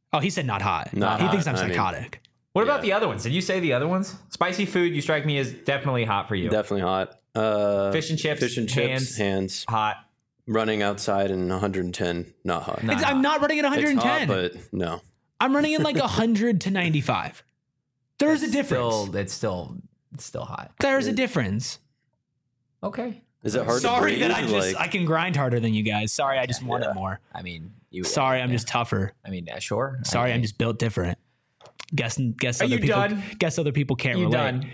Oh, he said not hot. Not he hot, thinks I'm I mean- psychotic. What about Yeah. the other ones? Did you say the other ones? Spicy food, you strike me as definitely hot for you. Definitely hot. Uh, Fish and chips, Fish and chips. hands. Hands. Hot. Running outside in one hundred ten. Not hot. Not It's- I'm not running at one hundred It's ten. hot, but no. I'm running in like one hundred to ninety-five. There's a difference. Still, it's still, it's still hot. There's a difference. Okay. Is it hard Sorry to breathe? that I just like, I can grind harder than you guys. Sorry, I just want Yeah. it more. I mean, you. Sorry, I'm yeah. just tougher. I mean, yeah, sure. Sorry, I, I'm just built different. Guess guess Are other you people done? guess other people can't You relate. done?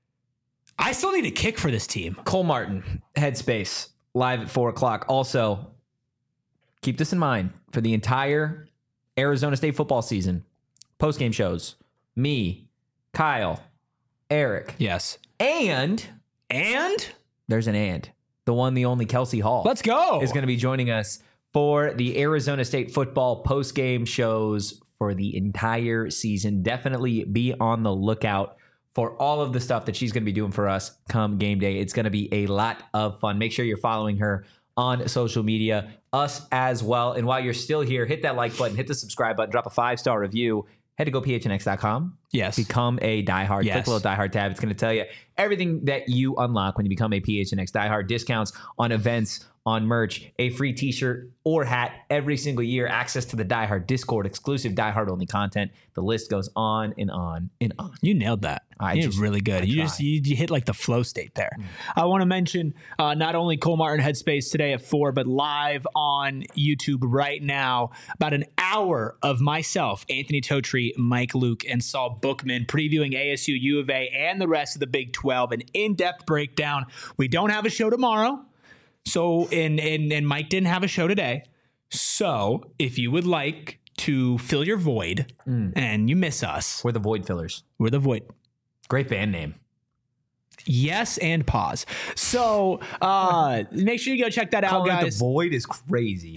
I still need a kick for this team. Cole Martin, Headspace, live at four o'clock. Also, keep this in mind for the entire Arizona State football season. Post game shows. Me, Kyle, Eric, Yes. and And there's an and the one, the only Kelsey Hall. let's go. is going to be joining us for the Arizona State football post-game shows for the entire season. Definitely be on the lookout for all of the stuff that she's going to be doing for us come game day. It's going to be a lot of fun. Make sure you're following her on social media, us as well. And while you're still here, hit that like button, hit the subscribe button, drop a five-star review. Head to go P H N X dot com. Yes. Become a diehard. Yes. Click the little diehard tab. It's going to tell you everything that you unlock when you become a P H N X diehard. Discounts on events, on merch, a free t-shirt or hat every single year, access to the diehard Discord, exclusive diehard only content. The list goes on and on and on. You nailed that. I you just- did really good. I You try. just you, you hit like the flow state there. I want to mention uh, not only Cole Martin Headspace today at four, but live on YouTube right now. About an hour of myself, Anthony Totri, Mike Luke, and Saul Bookman previewing A S U, U of A, and the rest of the Big twelve. An in-depth breakdown. We don't have a show tomorrow, so and and and Mike didn't have a show today. So if you would like to fill your void and you miss us, We're the Void Fillers. we're the void. Great band name. Yes, and pause. So uh, make sure you go check that out, Calling it guys. the Void is crazy.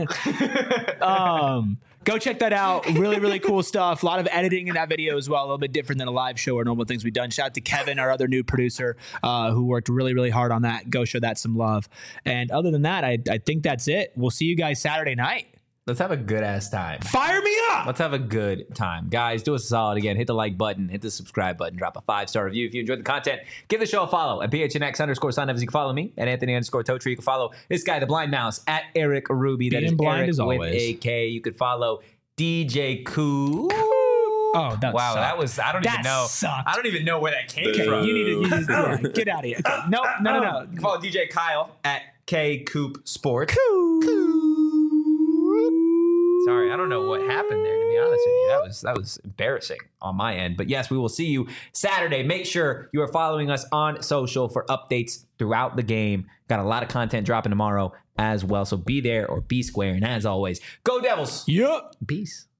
Um, go check that out. Really, really cool stuff. A lot of editing in that video as well. A little bit different than a live show or normal things we've done. Shout out to Kevin, our other new producer, uh, who worked really, really hard on that. Go show that some love. And other than that, I, I think that's it. We'll see you guys Saturday night. Let's have a good ass time. Fire me up. Let's have a good time. Guys, do us a solid again. Hit the like button, hit the subscribe button, drop a five-star review if you enjoyed the content. Give the show a follow at P H N X underscore sign up. You can follow me at Anthony underscore Totri. You can follow this guy, the blind mouse, at Eric Ruby. That Being is blind Eric as with always. a K. You could follow D J Koo. Oh, that Wow, sucked. that was, I don't That even know. sucked. I don't even know where that came Boo. from. You need to you need to- yeah, get out of here. Okay. No, no, no, no. You can follow D J Kyle at K Coop Sports. Sorry, I don't know what happened there, to be honest with you. That was that was embarrassing on my end. But yes, we will see you Saturday. Make sure you are following us on social for updates throughout the game. Got a lot of content dropping tomorrow as well. So be there or be square. And as always, go Devils. Yep. Peace.